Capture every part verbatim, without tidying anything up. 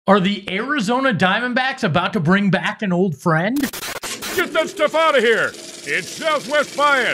Are the Arizona Diamondbacks about to bring back an old friend? Get that stuff out of here! It's Southwest Bias!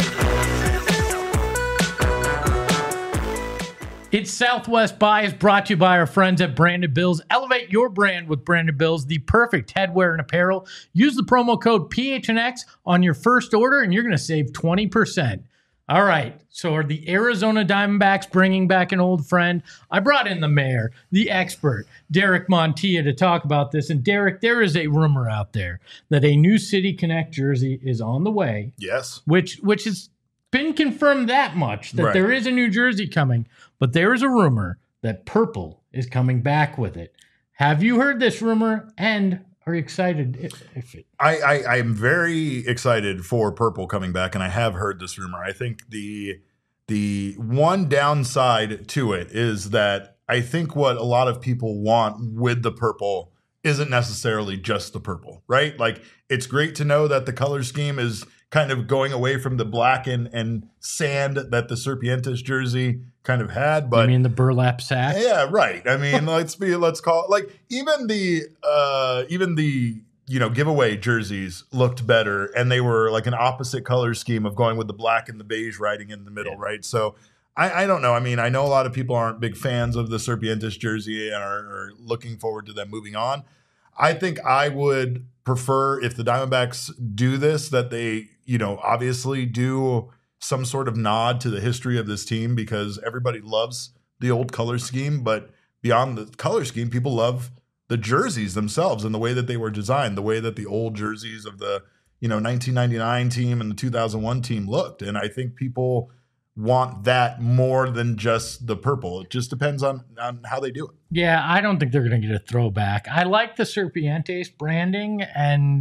It's Southwest Bias, brought to you by our friends at Branded Bills. Elevate your brand with Branded Bills, the perfect headwear and apparel. Use the promo code P H N X on your first order, and you're going to save twenty percent. All right, so are the Arizona Diamondbacks bringing back an old friend? I brought in the mayor, the expert, Derek Montilla, to talk about this. And Derek, there is a rumor out there that a new City Connect jersey is on the way. Yes. Which which has been confirmed that much, that Right. there is a new jersey coming. But there is a rumor that purple is coming back with it. Have you heard this rumor? And are you excited if, if it... I, I I'm very excited for purple coming back, and I have heard this rumor. I think the the one downside to it is that I think what a lot of people want with the purple isn't necessarily just the purple, right? Like, it's great to know that the color scheme is kind of going away from the black and, and sand that the Serpientes jersey kind of had, but You mean the burlap sack? yeah, right. I mean, let's be let's call it like even the uh even the you know giveaway jerseys looked better, and they were like an opposite color scheme of going with the black and the beige riding in the middle, Yeah. right? So I, I don't know. I mean, I know a lot of people aren't big fans of the Serpientes jersey and are, are looking forward to them moving on. I think I would prefer if the Diamondbacks do this, that they, you know, obviously do some sort of nod to the history of this team, because everybody loves the old color scheme. But beyond the color scheme, people love the jerseys themselves and the way that they were designed, the way that the old jerseys of the, you know, nineteen ninety-nine team and the two thousand one team looked. And I think people want that more than just the purple. It just depends on, on how they do it. Yeah, I don't think they're going to get a throwback. I like the Serpientes branding, and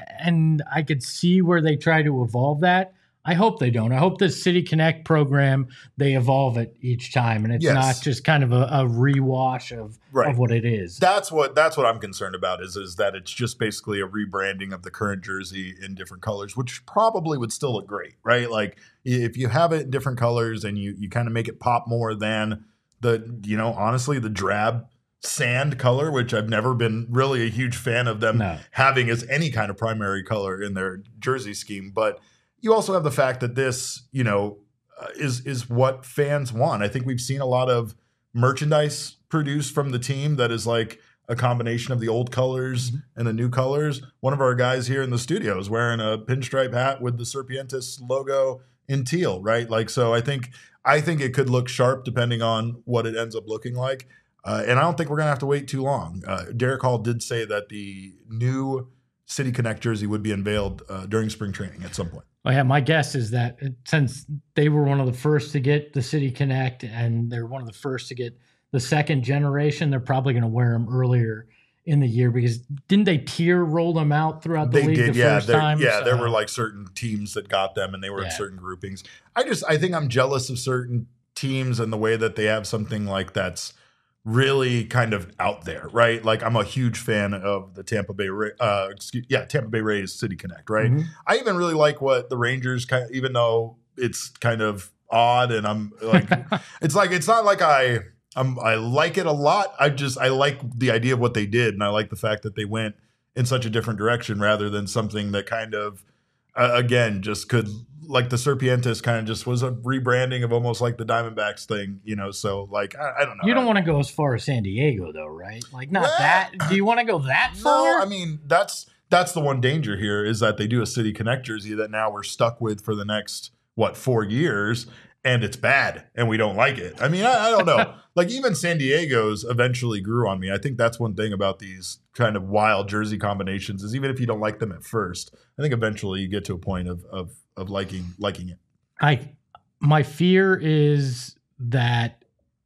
and I could see where they try to evolve that. I hope they don't. I hope the City Connect program, they evolve it each time, and it's Yes. not just kind of a, a rewash of, Right. of what it is. That's what that's what I'm concerned about is is that it's just basically a rebranding of the current jersey in different colors, which probably would still look great, right? Like if you have it in different colors and you you kind of make it pop more than the, you know, honestly, the drab sand color, which I've never been really a huge fan of them No. having as any kind of primary color in their jersey scheme. But you also have the fact that this, you know, uh, is is what fans want. I think we've seen a lot of merchandise produced from the team that is like a combination of the old colors Mhm. and the new colors. One of our guys here in the studio is wearing a pinstripe hat with the Serpientes logo in teal, right? Like, so I think I think it could look sharp depending on what it ends up looking like. Uh, and I don't think we're gonna have to wait too long. Uh, Derek Hall did say that the new City Connect jersey would be unveiled uh, during spring training at some point. Well, yeah, my guess is that it- since they were one of the first to get the City Connect, and they're one of the first to get the second generation, they're probably going to wear them earlier in the year, because didn't they tier roll them out throughout the They league did, the yeah. first there- time? Yeah, there So- were like certain teams that got them, and they were in Yeah. certain groupings. I just, I think I'm jealous of certain teams and the way that they have something like that's really kind of out there, right? Like, I'm a huge fan of the Tampa Bay, Ra- uh, excuse, yeah, Tampa Bay Rays City Connect, right? Mhm. I even really like what the Rangers kind of, even though it's kind of odd, and I'm like, it's like it's not like I. Um, I like it a lot. I just I like the idea of what they did, and I like the fact that they went in such a different direction rather than something that kind of, uh, again, just could, like the Serpientes kind of just was a rebranding of almost like the Diamondbacks thing, you know. So like I, I don't know. You don't want to go as far as San Diego, though, right? Like, not Well, that. Do you want to go that far? No, I mean that's that's the one danger here is that they do a City Connect jersey that now we're stuck with for the next what four years. And it's bad, and we don't like it. I mean, I, I don't know. Like, even San Diego's eventually grew on me. I think that's one thing about these kind of wild jersey combinations is even if you don't like them at first, I think eventually you get to a point of of of liking liking it. I my fear is that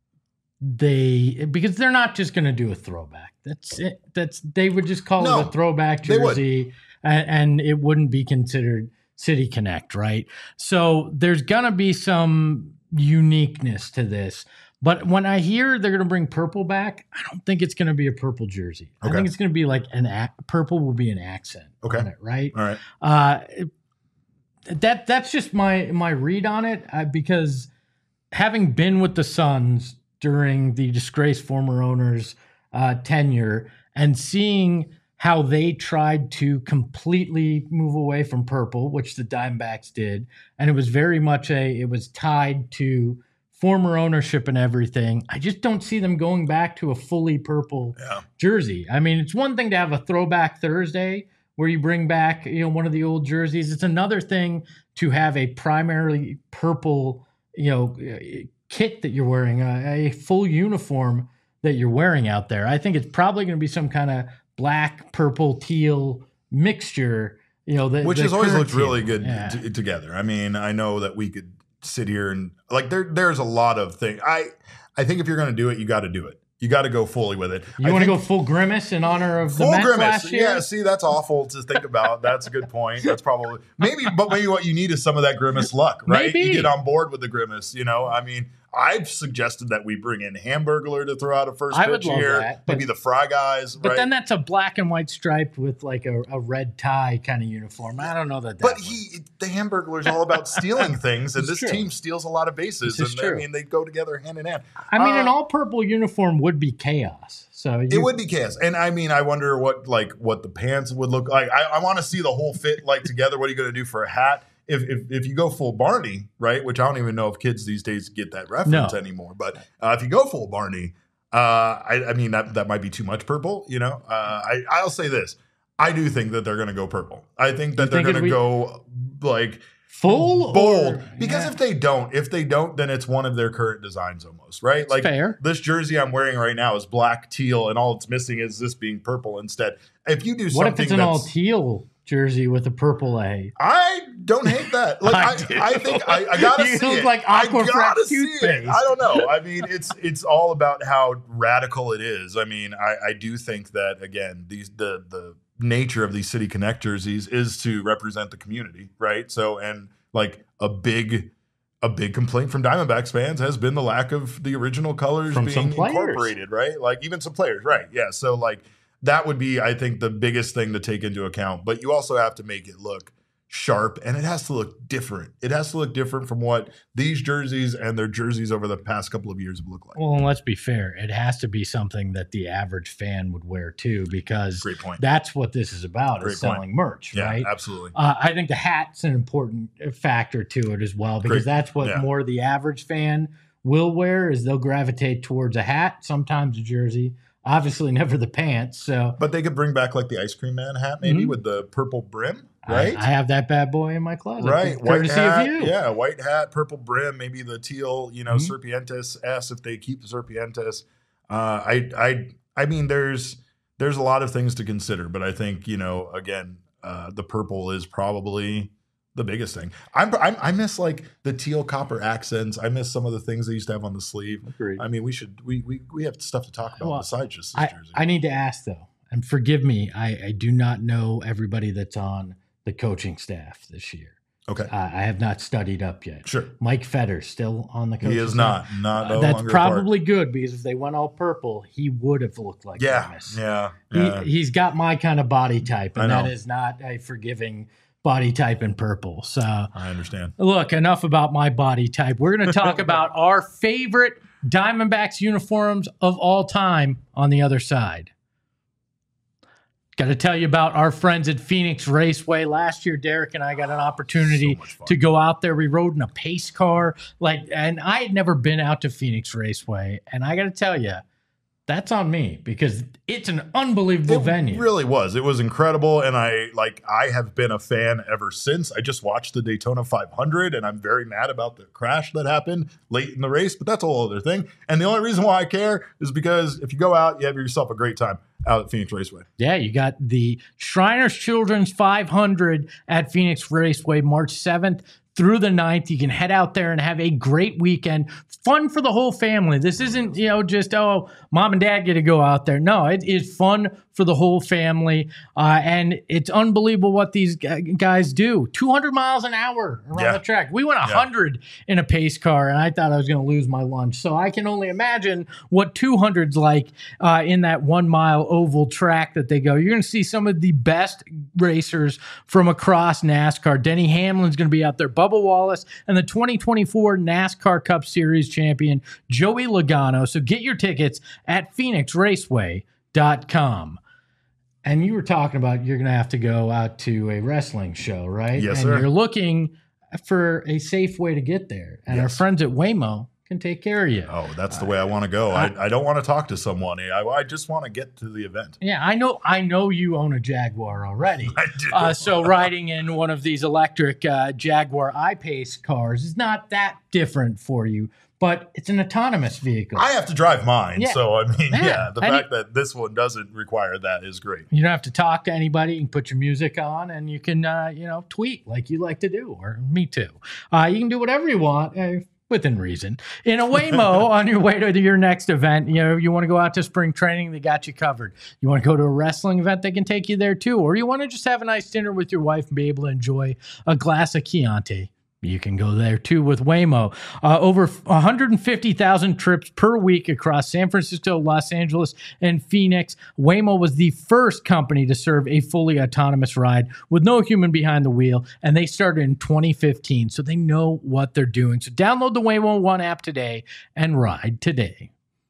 they, because they're not just going to do a throwback. That's it. That's they would just call No, it a throwback they would. jersey, and, and it wouldn't be considered City Connect, right? So there's gonna be some uniqueness to this. But when I hear they're gonna bring purple back, I don't think it's gonna be a purple jersey. I Okay. think it's gonna be like an ac- purple will be an accent Okay. on it, right? All right. Uh, that that's just my my read on it, uh, because having been with the Suns during the disgraced former owners uh, tenure and seeing how they tried to completely move away from purple, which the Diamondbacks did. And it was very much a, it was tied to former ownership and everything. I just don't see them going back to a fully purple Yeah. jersey. I mean, it's one thing to have a throwback Thursday where you bring back, you know, one of the old jerseys. It's another thing to have a primarily purple, you know, kit that you're wearing, a, a full uniform that you're wearing out there. I think it's probably going to be some kind of black, purple, teal mixture, you know, the, which the has always current looked really team. good Yeah. t- together. I mean, I know that we could sit here and like there. There's a lot of things. I I think if you're going to do it, you got to do it. You got to go fully with it. You want to go full Grimace in honor of the full Mets grimace? last year? Yeah. See, that's awful to think about. That's a good point. That's probably maybe, but maybe what you need is some of that grimace luck, right? Maybe. You get on board with the grimace. You know, I mean. I've suggested that we bring in Hamburglar to throw out a first I pitch would love here. that, but- Maybe the Fry guys, But right? then that's a black and white striped with like a, a red tie kind of uniform. I don't know that. that But would- he, the Hamburglar is all about stealing things, and It's this true. team steals a lot of bases. This is And true. I mean, they go together hand in hand. I mean, an Uh, all purple uniform would be chaos. So you, It would be chaos, and I mean, I wonder what like what the pants would look like. I, I want to see the whole fit like together. What are you going to do for a hat? If, if if you go full Barney, right? Which I don't even know if kids these days get that reference No. anymore. But uh, if you go full Barney, uh, I, I mean that that might be too much purple. You know, uh, I I'll say this: I do think that they're going to go purple. I think that You they're think if going to we- go like. full bold or- because yeah. if they don't if they don't then it's one of their current designs almost, right? Like fair. this jersey I'm wearing right now is black, teal, and all it's missing is this being purple instead. If you do What something if it's an that's all teal jersey with a purple A? I don't hate that. Like I I, do. I, think I, I gotta You see look it. like I Aquafresh gotta see it. toothpaste. I don't know. I mean, it's it's all about how radical it is. I mean, I, I do think that again, these the the nature of these City Connect jerseys is to represent the community, right? So and like a big a big complaint from Diamondbacks fans has been the lack of the original colors From being some players. incorporated, right? Like even some players, right? Yeah. So like that would be, I think, the biggest thing to take into account. But you also have to make it look sharp, and it has to look different. It has to look different from what these jerseys and their jerseys over the past couple of years have looked like. Well, and let's be fair. It has to be something that the average fan would wear too, because Great point. that's what this is about, Great is point. selling merch, Yeah, right? absolutely. Uh, I think the hat's an important factor to it as well, because Great. that's what Yeah. more the average fan will wear, is they'll gravitate towards a hat, sometimes a jersey, obviously never the pants. So But they could bring back like the ice cream man hat, maybe Mhm. with the purple brim, I- right? I, have that bad boy in my closet. Right, white Courtesy hat, of you. yeah, white hat, purple brim, maybe the teal, you know, Mhm. Serpientes S if they keep the Serpientes. Uh, I, I, I mean, there's there's a lot of things to consider, but I think you know, again, uh, the purple is probably the biggest thing. I'm, I'm I miss like the teal copper accents. I miss some of the things they used to have on the sleeve. Agreed. I mean, we should we we we have stuff to talk about Well, besides just this I, jersey. I need to ask though, and forgive me, I, I do not know everybody that's on the coaching staff this year. okay, Uh, I have not studied up yet. sure. Mike Fetter's still on the coaching He is staff. not not Uh, no that's longer a part. probably good, because if they went all purple, he would have looked like yeah Grimace. yeah yeah. He, he's got my kind of body type, and I that know. is not a forgiving body type in purple. So, I understand. look, enough about my body type. We're going to talk about our favorite Diamondbacks uniforms of all time on the other side. Got to tell you about our friends at Phoenix Raceway. Last year, Derek and I got an opportunity So much fun. to go out there. We rode in a pace car, like, and I had never been out to Phoenix Raceway. And I got to tell you, that's on me, because it's an unbelievable It venue. really was. It was incredible, and I like. I have been a fan ever since. I just watched the Daytona five hundred, and I'm very mad about the crash that happened late in the race. But that's a whole other thing. And the only reason why I care is because if you go out, you have yourself a great time out at Phoenix Raceway. Yeah, you got the Shriners Children's five hundred at Phoenix Raceway, March seventh through the ninth. You can head out there and have a great weekend. Fun for the whole family. This isn't, you know, just, oh, mom and dad get to go out there. No, it is fun for the whole family. Uh, and it's unbelievable what these g- guys do. two hundred miles an hour around Yeah. the track. We went Yeah. one hundred in a pace car, and I thought I was going to lose my lunch. So I can only imagine what two hundred's like uh, in that one mile oval track that they go. You're going to see some of the best racers from across NASCAR. Denny Hamlin's going to be out there. Bubba Wallace, and the twenty twenty-four NASCAR Cup Series champion, Joey Logano. So get your tickets at phoenix raceway dot com. And you were talking about you're going to have to go out to a wrestling show, right? Yes, and sir. You're looking for a safe way to get there. And our Yes. friends at Waymo can take care of you. Oh, that's the way I want to go. I, I don't want to talk to someone. I, I just want to get to the event. Yeah, I know. I know you own a Jaguar already. I do. Uh, so riding in one of these electric uh, Jaguar I-Pace cars is not that different for you, but it's an autonomous vehicle. I have to drive mine. Yeah. So, I mean, Yeah. yeah, the And fact that this one doesn't require that is great. You don't have to talk to anybody. You can put your music on, and you can, uh, you know, tweet like you like to do, or me too. Uh, you can do whatever you want. Uh, Within reason. In a Waymo, on your way to your next event, you know, you want to go out to spring training, they got you covered. You want to go to a wrestling event, they can take you there too. Or you want to just have a nice dinner with your wife and be able to enjoy a glass of Chianti. You can go there too with Waymo. Uh, over one hundred fifty thousand trips per week across San Francisco, Los Angeles, and Phoenix. Waymo was the first company to serve a fully autonomous ride with no human behind the wheel, and they started in twenty fifteen, so they know what they're doing. So download the Waymo One app today and ride today.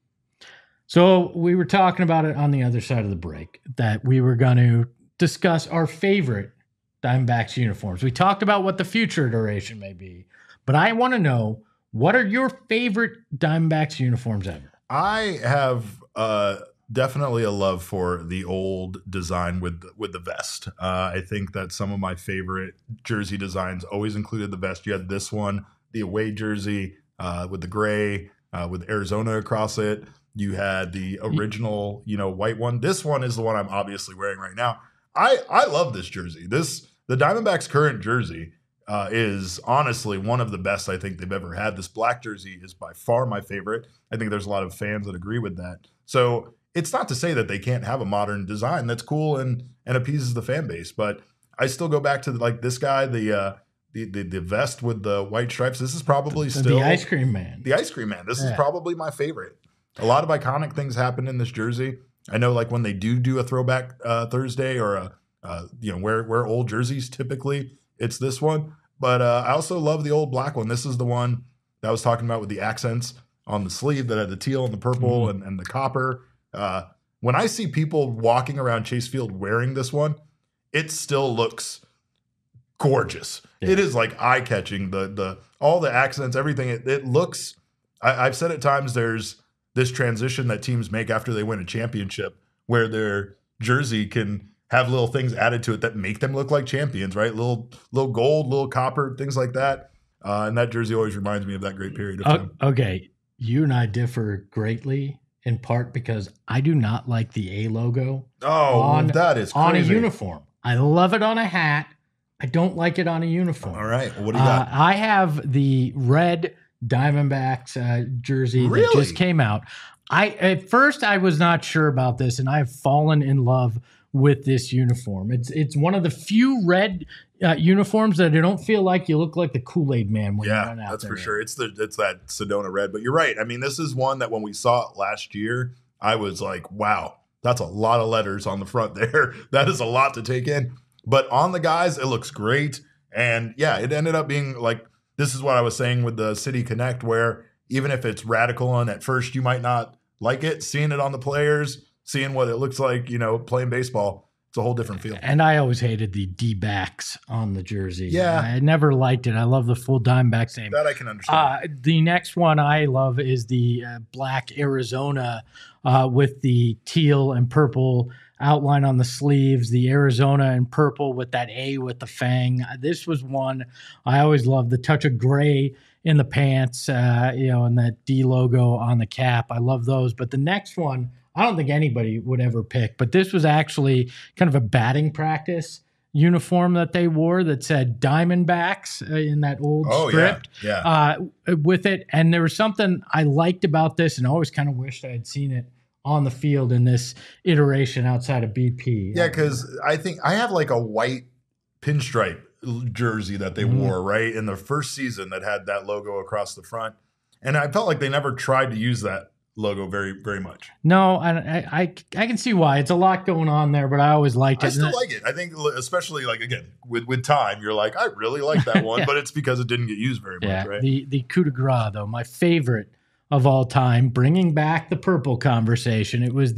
So we were talking about it on the other side of the break, that we were going to discuss our favorite Diamondbacks uniforms. We talked about what the future iteration may be, but I want to know, what are your favorite Diamondbacks uniforms ever? I have uh, definitely a love for the old design with with the vest. Uh, I think that some of my favorite jersey designs always included the vest. You had this one, the away jersey uh, with the gray, uh, with Arizona across it. You had the original, you know, white one. This one is the one I'm obviously wearing right now. I I love this jersey. This the Diamondbacks' current jersey uh, is honestly one of the best I think they've ever had. This black jersey is by far my favorite. I think there's a lot of fans that agree with that. So it's not to say that they can't have a modern design that's cool and and appeases the fan base, but I still go back to like this guy, the uh, the, the the vest with the white stripes. This is probably The, still the ice cream man. the ice cream man. This Yeah. is probably my favorite. A lot of iconic things happen in this jersey. I know, like when they do do a throwback uh, Thursday or a uh, you know wear wear old jerseys. Typically, it's this one. But uh, I also love the old black one. This is the one that I was talking about with the accents on the sleeve that had the teal and the purple Mm-hmm. and, and the copper. Uh, when I see people walking around Chase Field wearing this one, it still looks gorgeous. Yeah. It is like eye catching. The the all the accents, everything. It, it looks. I, I've said at times there's this transition that teams make after they win a championship, where their jersey can have little things added to it that make them look like champions, right? Little little gold, little copper, things like that. Uh, and that jersey always reminds me of that great period of time. O- okay, you and I differ greatly, in part because I do not like the A logo Oh, on- that is crazy. on a uniform. I love it on a hat. I don't like it on a uniform. All right, well, what do you Uh, got? I have the red Diamondbacks uh, jersey that Really? just came out. I at first I was not sure about this, and I've fallen in love with this uniform. It's it's one of the few red uh, uniforms that I don't feel like you look like the Kool-Aid man when you Yeah, run out that's there. for sure. It's the it's that Sedona red, but you're right. I mean, this is one that when we saw it last year, I was like, wow, that's a lot of letters on the front there. That is a lot to take in. But on the guys, it looks great. And yeah, it ended up being like, this is what I was saying with the City Connect, where even if it's radical and at first you might not like it, seeing it on the players, seeing what it looks like, you know, playing baseball, it's a whole different feel. And I always hated the D-backs on the jersey. Yeah. I never liked it. I love the full Diamondbacks name. That I can understand. Uh, the next one I love is the uh, black Arizona uh, with the teal and purple outline on the sleeves, the Arizona and purple with that A with the fang. This was one I always loved, the touch of gray in the pants, uh, you know, and that D logo on the cap. I love those. But the next one, I don't think anybody would ever pick, but this was actually kind of a batting practice uniform that they wore that said Diamondbacks uh, in that old oh, script yeah. Yeah. uh, with it. And there was something I liked about this and always kind of wished I had seen it on the field in this iteration outside of B P. Yeah, because I think I have like a white pinstripe jersey that they Mhm. wore, right, in the first season that had that logo across the front. And I felt like they never tried to use that logo very, very much. No, I, I, I, I can see why. It's a lot going on there, but I always liked it. I still And like it. I think, especially like, again, with, with time, you're like, I really like that one, Yeah. but it's because it didn't get used very much, Yeah, right? the, the coup de grace, though, my favorite of all time, bringing back the purple conversation. It was the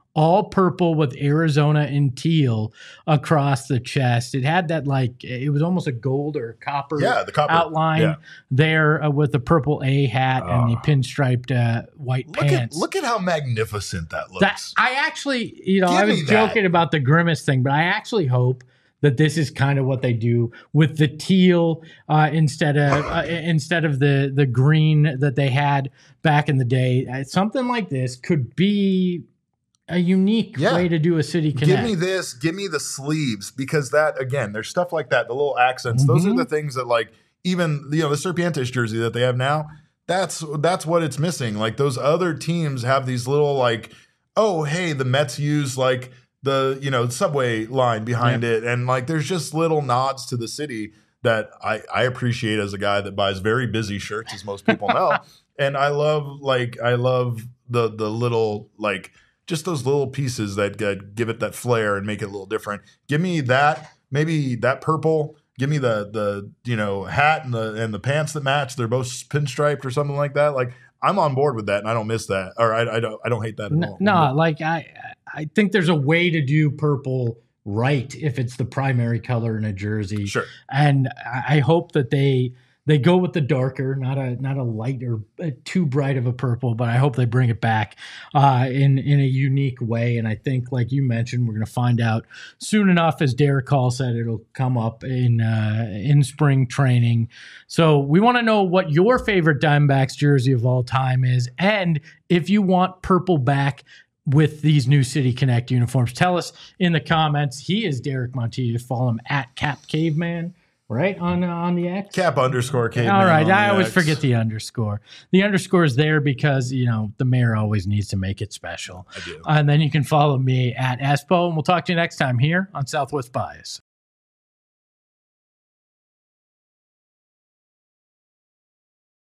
all purple with Arizona and teal across the chest. It had that like it was almost a gold or copper, yeah, the copper outline yeah. there uh, with the purple A hat uh, and the pinstriped uh, white look pants. At, look at how magnificent that looks. That, I actually, you know, Give I was joking that. about the Grimace thing, but I actually hope that this is kind of what they do with the teal uh, instead of uh, instead of the the green that they had back in the day. Uh, something like this could be a unique yeah. way to do a City Connect. Give me this. Give me the sleeves, because that, again, there's stuff like that. The little accents. Mm-hmm. Those are the things that, like, even, you know, the Serpientes jersey that they have now, that's that's what it's missing. Like, those other teams have these little, like, oh, hey, the Mets use, like, the, you know, subway line behind yeah. it. And, like, there's just little nods to the city that I, I appreciate as a guy that buys very busy shirts, as most people know. And I love, like, I love the the little, like, just those little pieces that uh, give it that flair and make it a little different. Give me that, maybe that purple. Give me the the you know hat and the and the pants that match. They're both pinstriped or something like that. Like, I'm on board with that, and I don't miss that, or I, I don't I don't hate that at no, all. No, like I I think there's a way to do purple right if it's the primary color in a jersey. Sure. And I hope that they. They go with the darker, not a not a light or too bright of a purple, but I hope they bring it back uh, in in a unique way. And I think, like you mentioned, we're going to find out soon enough. As Derek Hall said, it'll come up in uh, in spring training. So we want to know what your favorite Diamondbacks jersey of all time is, and if you want purple back with these new City Connect uniforms, tell us in the comments. He is Derek Montilla. Follow him at Cap Caveman. Right on uh, on the X? Cap underscore caveman. All right, I always X. forget the underscore. The underscore is there because, you know, the mayor always needs to make it special. I do. Uh, and then you can follow me at Espo, and we'll talk to you next time here on Southwest Bias.